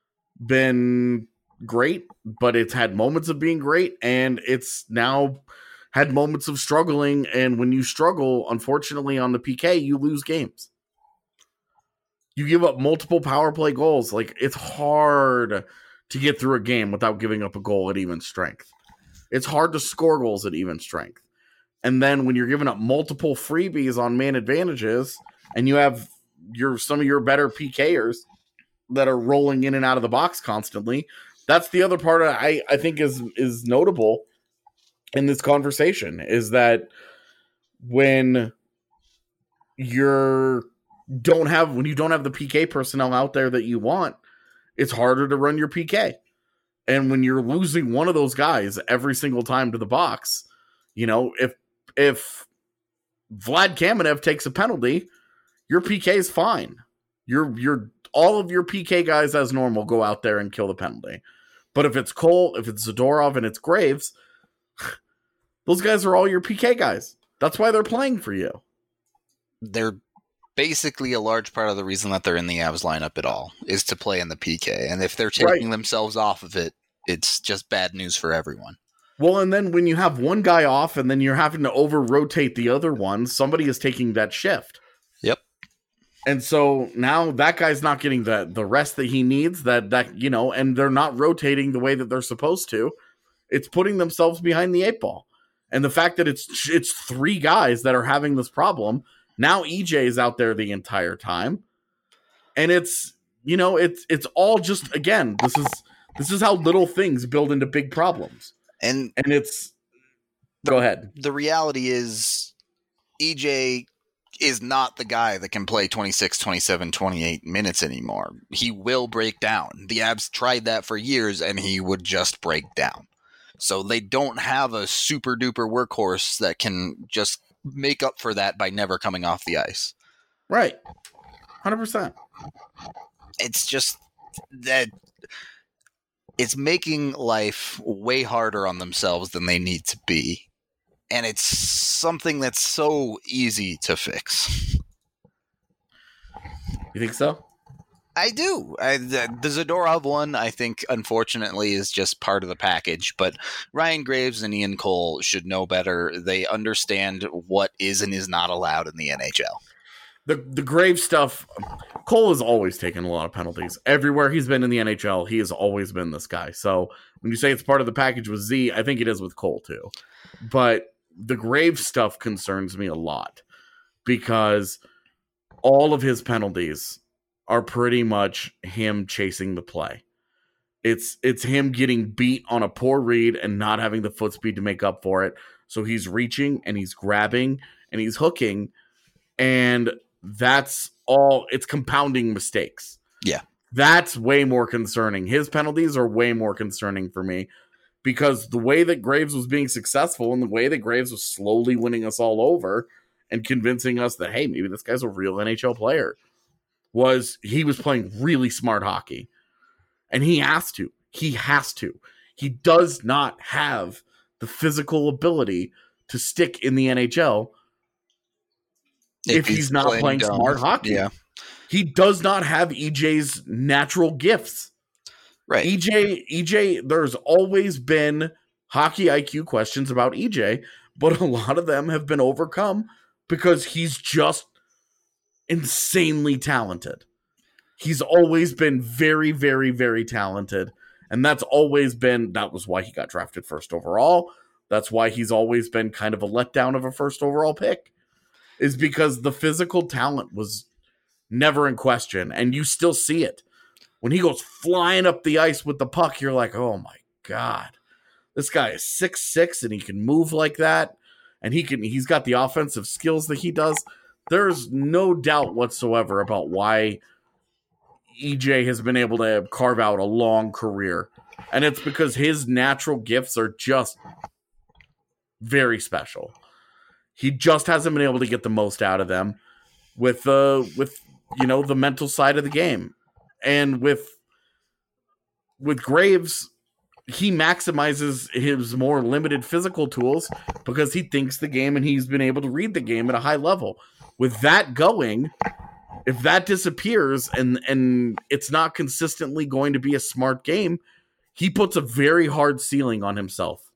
been great, but it's had moments of being great, and it's now had moments of struggling. And when you struggle, unfortunately, on the P K, you lose games. You give up multiple power play goals. Like, it's hard to get through a game without giving up a goal at even strength. It's hard to score goals at even strength. And then when you're giving up multiple freebies on man advantages, and you have your some of your better P Kers that are rolling in and out of the box constantly, that's the other part I, I think is is notable in this conversation, is that when you're don't have when you don't have the P K personnel out there that you want, it's harder to run your P K. And when you're losing one of those guys every single time to the box, you know, if if Vlad Kamenev takes a penalty, your P K is fine. You're you're all of your P K guys as normal go out there and kill the penalty. But if it's Cole, if it's Zadorov, and it's Graves, those guys are all your P K guys. That's why they're playing for you. They're basically a large part of the reason that they're in the Avs lineup at all, is to play in the P K. And if they're taking right. themselves off of it, it's just bad news for everyone. Well, and then when you have one guy off and then you're having to over-rotate the other one, somebody is taking that shift. Yep. And so now that guy's not getting the, the rest that he needs, that, that, you know, and they're not rotating the way that they're supposed to. It's putting themselves behind the eight ball. And the fact that it's it's three guys that are having this problem, now E J is out there the entire time. And it's, you know, it's it's all just, again, this is this is how little things build into big problems. And and it's go ahead. The reality is E J is not the guy that can play twenty-six, twenty-seven, twenty-eight minutes anymore. He will break down. The Avs tried that for years and he would just break down. So they don't have a super duper workhorse that can just make up for that by never coming off the ice. Right. one hundred percent. It's just that it's making life way harder on themselves than they need to be. And it's something that's so easy to fix. You think so? I do. I, the, the Zadorov one, I think, unfortunately, is just part of the package. But Ryan Graves and Ian Cole should know better. They understand what is and is not allowed in the N H L. The the Graves stuff, Cole has always taken a lot of penalties. Everywhere he's been in the N H L, he has always been this guy. So when you say it's part of the package with Z, I think it is with Cole too. But the Graves stuff concerns me a lot because all of his penalties are pretty much him chasing the play. It's it's him getting beat on a poor read and not having the foot speed to make up for it. So he's reaching and he's grabbing and he's hooking, and that's all. It's compounding mistakes. Yeah. That's way more concerning. His penalties are way more concerning for me because the way that Graves was being successful and the way that Graves was slowly winning us all over and convincing us that, hey, maybe this guy's a real N H L player, was he was playing really smart hockey. And he has to. He has to. He does not have the physical ability to stick in the N H L if, if he's, he's not playing, playing smart hockey. Yeah. He does not have E J's natural gifts. Right. E J, E J, there's always been hockey I Q questions about E J, but a lot of them have been overcome because he's just insanely talented. He's always been very, very, very talented. And that's always been, that was why he got drafted first overall. That's why he's always been kind of a letdown of a first overall pick, is because the physical talent was never in question. And you still see it. When he goes flying up the ice with the puck, you're like, oh my God, this guy is six six and he can move like that. And he can, he's got the offensive skills that he does. There's no doubt whatsoever about why E J has been able to carve out a long career. And it's because his natural gifts are just very special. He just hasn't been able to get the most out of them with, uh, with, you know, the mental side of the game. And with with Graves, he maximizes his more limited physical tools because he thinks the game and he's been able to read the game at a high level. With that going, if that disappears and, and it's not consistently going to be a smart game, he puts a very hard ceiling on himself.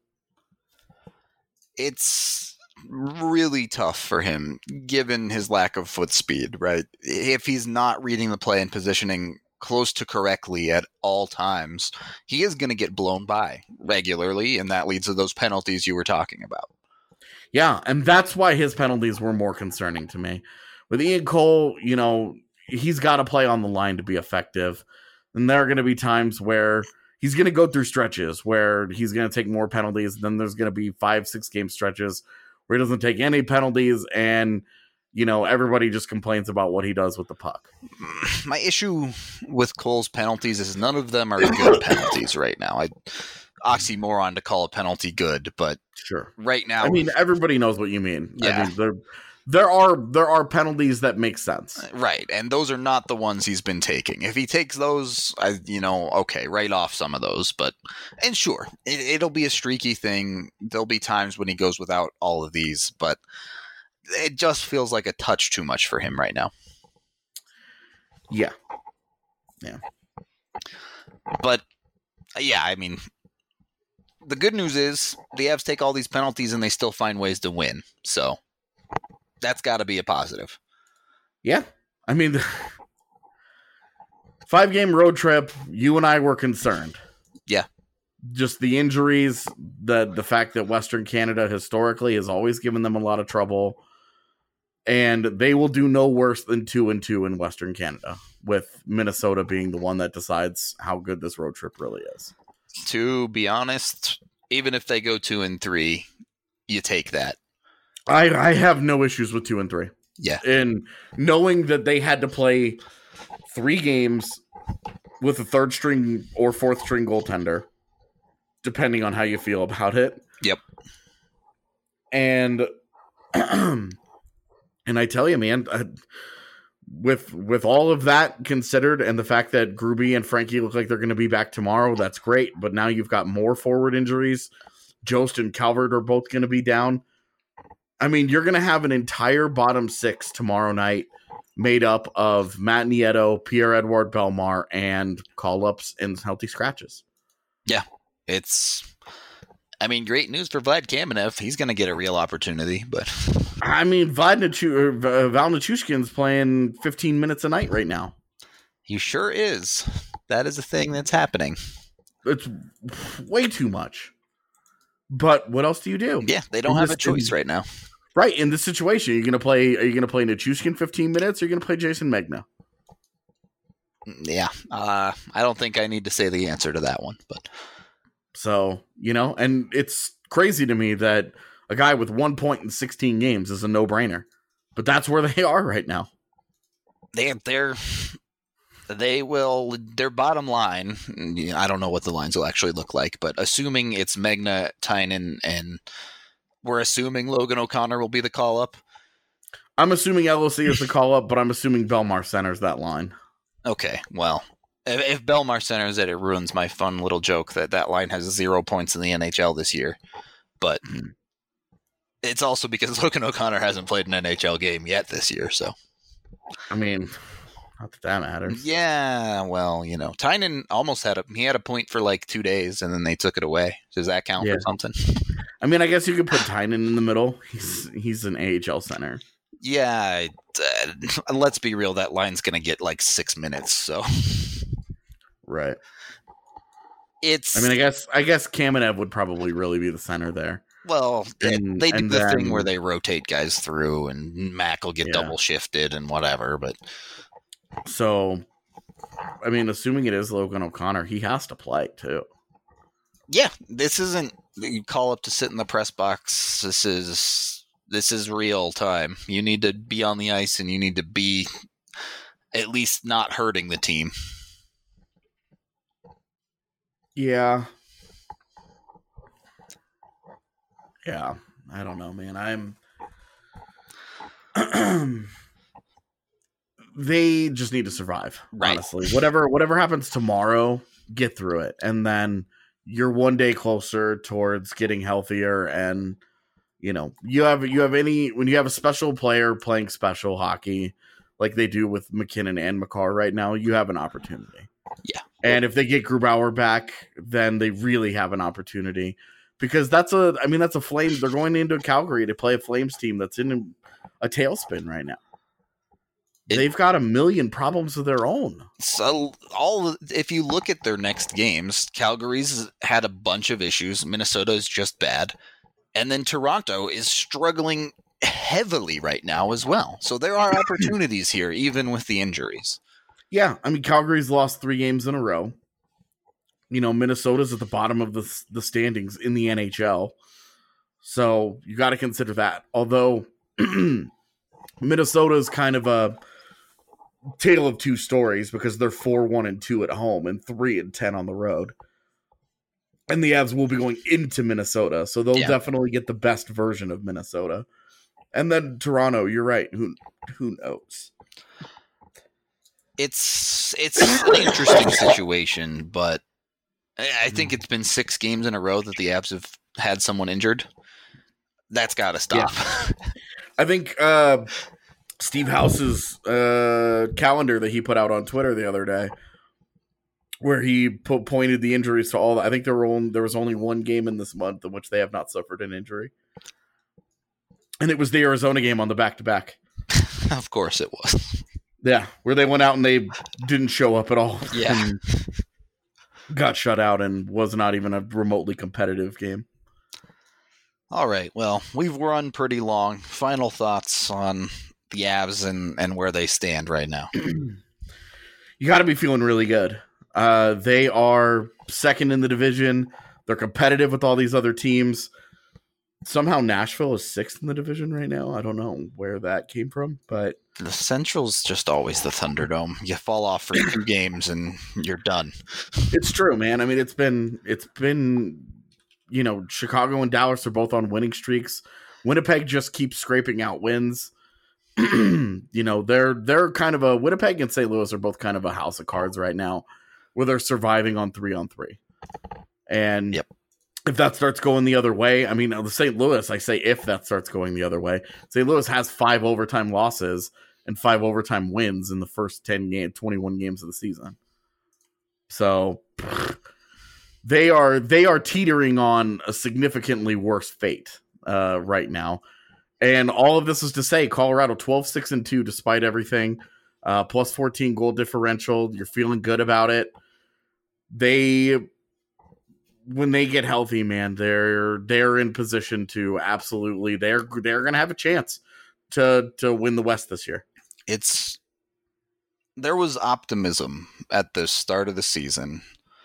It's really tough for him, given his lack of foot speed, right? If he's not reading the play and positioning close to correctly at all times, he is going to get blown by regularly, and that leads to those penalties you were talking about. Yeah, and that's why his penalties were more concerning to me. With Ian Cole, you know, he's got to play on the line to be effective, and there are going to be times where he's going to go through stretches where he's going to take more penalties, then there's going to be five, six game stretches where he doesn't take any penalties, and you know, everybody just complains about what he does with the puck. My issue with Cole's penalties is none of them are good penalties right now. I oxymoron to call a penalty good, but sure. Right now, I mean, everybody knows what you mean. Yeah. I mean, there, there are there are penalties that make sense, right? And those are not the ones he's been taking. If he takes those, I, you know, okay, write off some of those. But and sure, it, it'll be a streaky thing. There'll be times when he goes without all of these, but it just feels like a touch too much for him right now. Yeah. Yeah. But, yeah, I mean, the good news is the Avs take all these penalties and they still find ways to win. So, that's got to be a positive. Yeah. I mean, five-game road trip, you and I were concerned. Yeah. Just the injuries, the the fact that Western Canada historically has always given them a lot of trouble. And they will do no worse than two and two in Western Canada, with Minnesota being the one that decides how good this road trip really is. To be honest, even if they go two and three, you take that. I, I have no issues with two and three. Yeah. And knowing that they had to play three games with a third string or fourth string goaltender, depending on how you feel about it. Yep. And And I tell you, man, uh, with with all of that considered and the fact that Gruby and Frankie look like they're going to be back tomorrow, that's great. But now you've got more forward injuries. Jost and Calvert are both going to be down. I mean, you're going to have an entire bottom six tomorrow night made up of Matt Nieto, Pierre-Edouard Bellemare, and call-ups and healthy scratches. Yeah, it's... I mean, great news for Vlad Kamenev. He's going to get a real opportunity, but... I mean, Vlad Nichu- Val Nichushkin's playing fifteen minutes a night right now. He sure is. That is a thing that's happening. It's way too much. But what else do you do? Yeah, they don't in have this, a choice in, right now. Right, in this situation, you're going to play. Are you going to play Nichushkin fifteen minutes, or are you going to play Jason Megna? Yeah, uh, I don't think I need to say the answer to that one, but so you know, and it's crazy to me that a guy with one point in sixteen games is a no-brainer, but that's where they are right now. They they're They will, their bottom line, I don't know what the lines will actually look like, but assuming it's Megna, Tynan, and we're assuming Logan O'Connor will be the call-up. I'm assuming L O C is the call-up, but I'm assuming Belmar centers that line. Okay, well, if, if Belmar centers it, it ruins my fun little joke that that line has zero points in the N H L this year. But it's also because Logan O'Connor hasn't played an N H L game yet this year, so. I mean... Not that that matters. Yeah, well, you know, Tynan almost had a he had a point for like two days, and then they took it away. Does that count yeah. for something? I mean, I guess you could put Tynan in the middle. He's he's an A H L center. Yeah, uh, let's be real. That line's gonna get like six minutes. So, right. It's. I mean, I guess I guess Kamenev would probably really be the center there. Well, and, they do the then, thing where they rotate guys through, and Mac will get yeah. double shifted and whatever, but. So, I mean, assuming it is Logan O'Connor, he has to play too. Yeah, this isn't you call up to sit in the press box. This is this is real time. You need to be on the ice, and you need to be at least not hurting the team. Yeah. Yeah, I don't know, man. I'm. They just need to survive, right. honestly. Whatever whatever happens tomorrow, get through it. And then you're one day closer towards getting healthier. And, you know, you have you have any when you have a special player playing special hockey like they do with McKinnon and Makar right now, you have an opportunity. Yeah. And if they get Grubauer back, then they really have an opportunity. Because that's a I mean, that's a Flames. They're going into Calgary to play a Flames team that's in a tailspin right now. It, They've got a million problems of their own. So, all if you look at their next games, Calgary's had a bunch of issues. Minnesota is just bad, and then Toronto is struggling heavily right now as well. So there are opportunities here, even with the injuries. Yeah, I mean Calgary's lost three games in a row. You know, Minnesota's at the bottom of the the standings in the N H L, so you got to consider that. Although Minnesota is kind of a tale of two stories because they're four one and two at home and three and ten on the road, and the Avs will be going into Minnesota, so they'll yeah. definitely get the best version of Minnesota. And then Toronto, you're right. Who who knows? It's it's an interesting situation, but I think it's been six games in a row that the Avs have had someone injured. That's got to stop. Yeah. I think. Uh, Steve House's uh, calendar that he put out on Twitter the other day, where he po- pointed the injuries to all. I think there were only, there was only one game in this month in which they have not suffered an injury, and it was the Arizona game on the back to back. Of course, it was. Yeah, where they went out and they didn't show up at all. Yeah, got shut out and was not even a remotely competitive game. All right, well, we've run pretty long. Final thoughts on the Avs and, and where they stand right now. You got to be feeling really good. Uh, they are second in the division. They're competitive with all these other teams. Somehow Nashville is sixth in the division right now. I don't know where that came from, but the Central's just always the Thunderdome. You fall off for two games and you're done. It's true, man. I mean, it's been it's been you know, Chicago and Dallas are both on winning streaks. Winnipeg just keeps scraping out wins. You know, they're they're kind of a Winnipeg and Saint Louis are both kind of a house of cards right now, where they're surviving on three on three. And yep. if that starts going the other way, I mean, the Saint Louis, I say if that starts going the other way, Saint Louis has five overtime losses and five overtime wins in the first ten game, twenty-one games of the season. So they are they are teetering on a significantly worse fate uh, right now. And all of this is to say, Colorado twelve six and two despite everything, uh, plus fourteen goal differential. You're feeling good about it. They, when they get healthy, man, they're they're in position to absolutely they're they're going to have a chance to to win the West this year. It's there was optimism at the start of the season.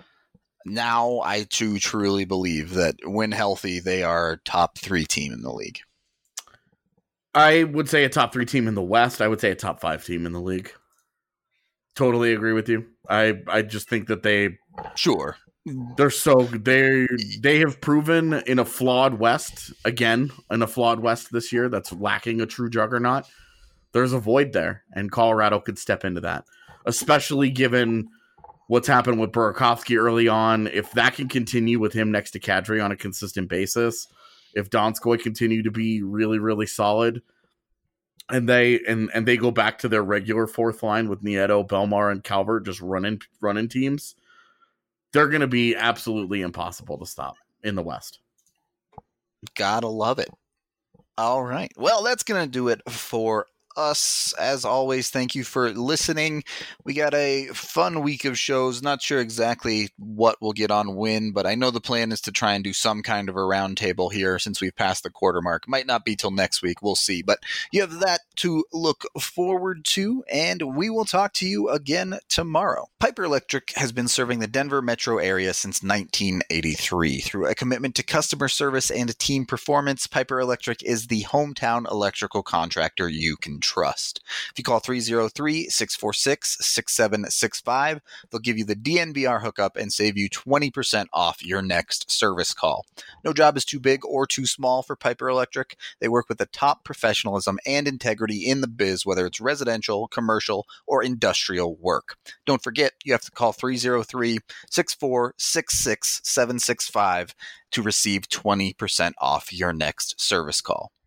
Now I too truly believe that when healthy, they are a top three team in the league. I would say a top three team in the West. I would say a top five team in the league. Totally agree with you. I I just think that they Sure. they're so they they have proven in a flawed West again in a flawed West this year that's lacking a true juggernaut. There's a void there, and Colorado could step into that, especially given what's happened with Burakovsky early on. If that can continue with him next to Kadri on a consistent basis, if Donskoy continue to be really, really solid, and they and, and they go back to their regular fourth line with Nieto, Belmar, and Calvert just running running teams, they're going to be absolutely impossible to stop in the West. Gotta love it. All right. Well, that's going to do it for us. As always, thank you for listening. We got a fun week of shows. Not sure exactly what we'll get on when, but I know the plan is to try and do some kind of a roundtable here since we've passed the quarter mark. Might not be till next week. We'll see. But you have that to look forward to, and we will talk to you again tomorrow. Piper Electric has been serving the Denver metro area since nineteen eighty-three. Through a commitment to customer service and team performance, Piper Electric is the hometown electrical contractor you can trust. If you call three oh three, six four six, six seven six five, they'll give you the D N V R hookup and save you twenty percent off your next service call. No job is too big or too small for Piper Electric. They work with the top professionalism and integrity in the biz, whether it's residential, commercial, or industrial work. Don't forget, you have to call three oh three, six four six six, seven six five to receive twenty percent off your next service call.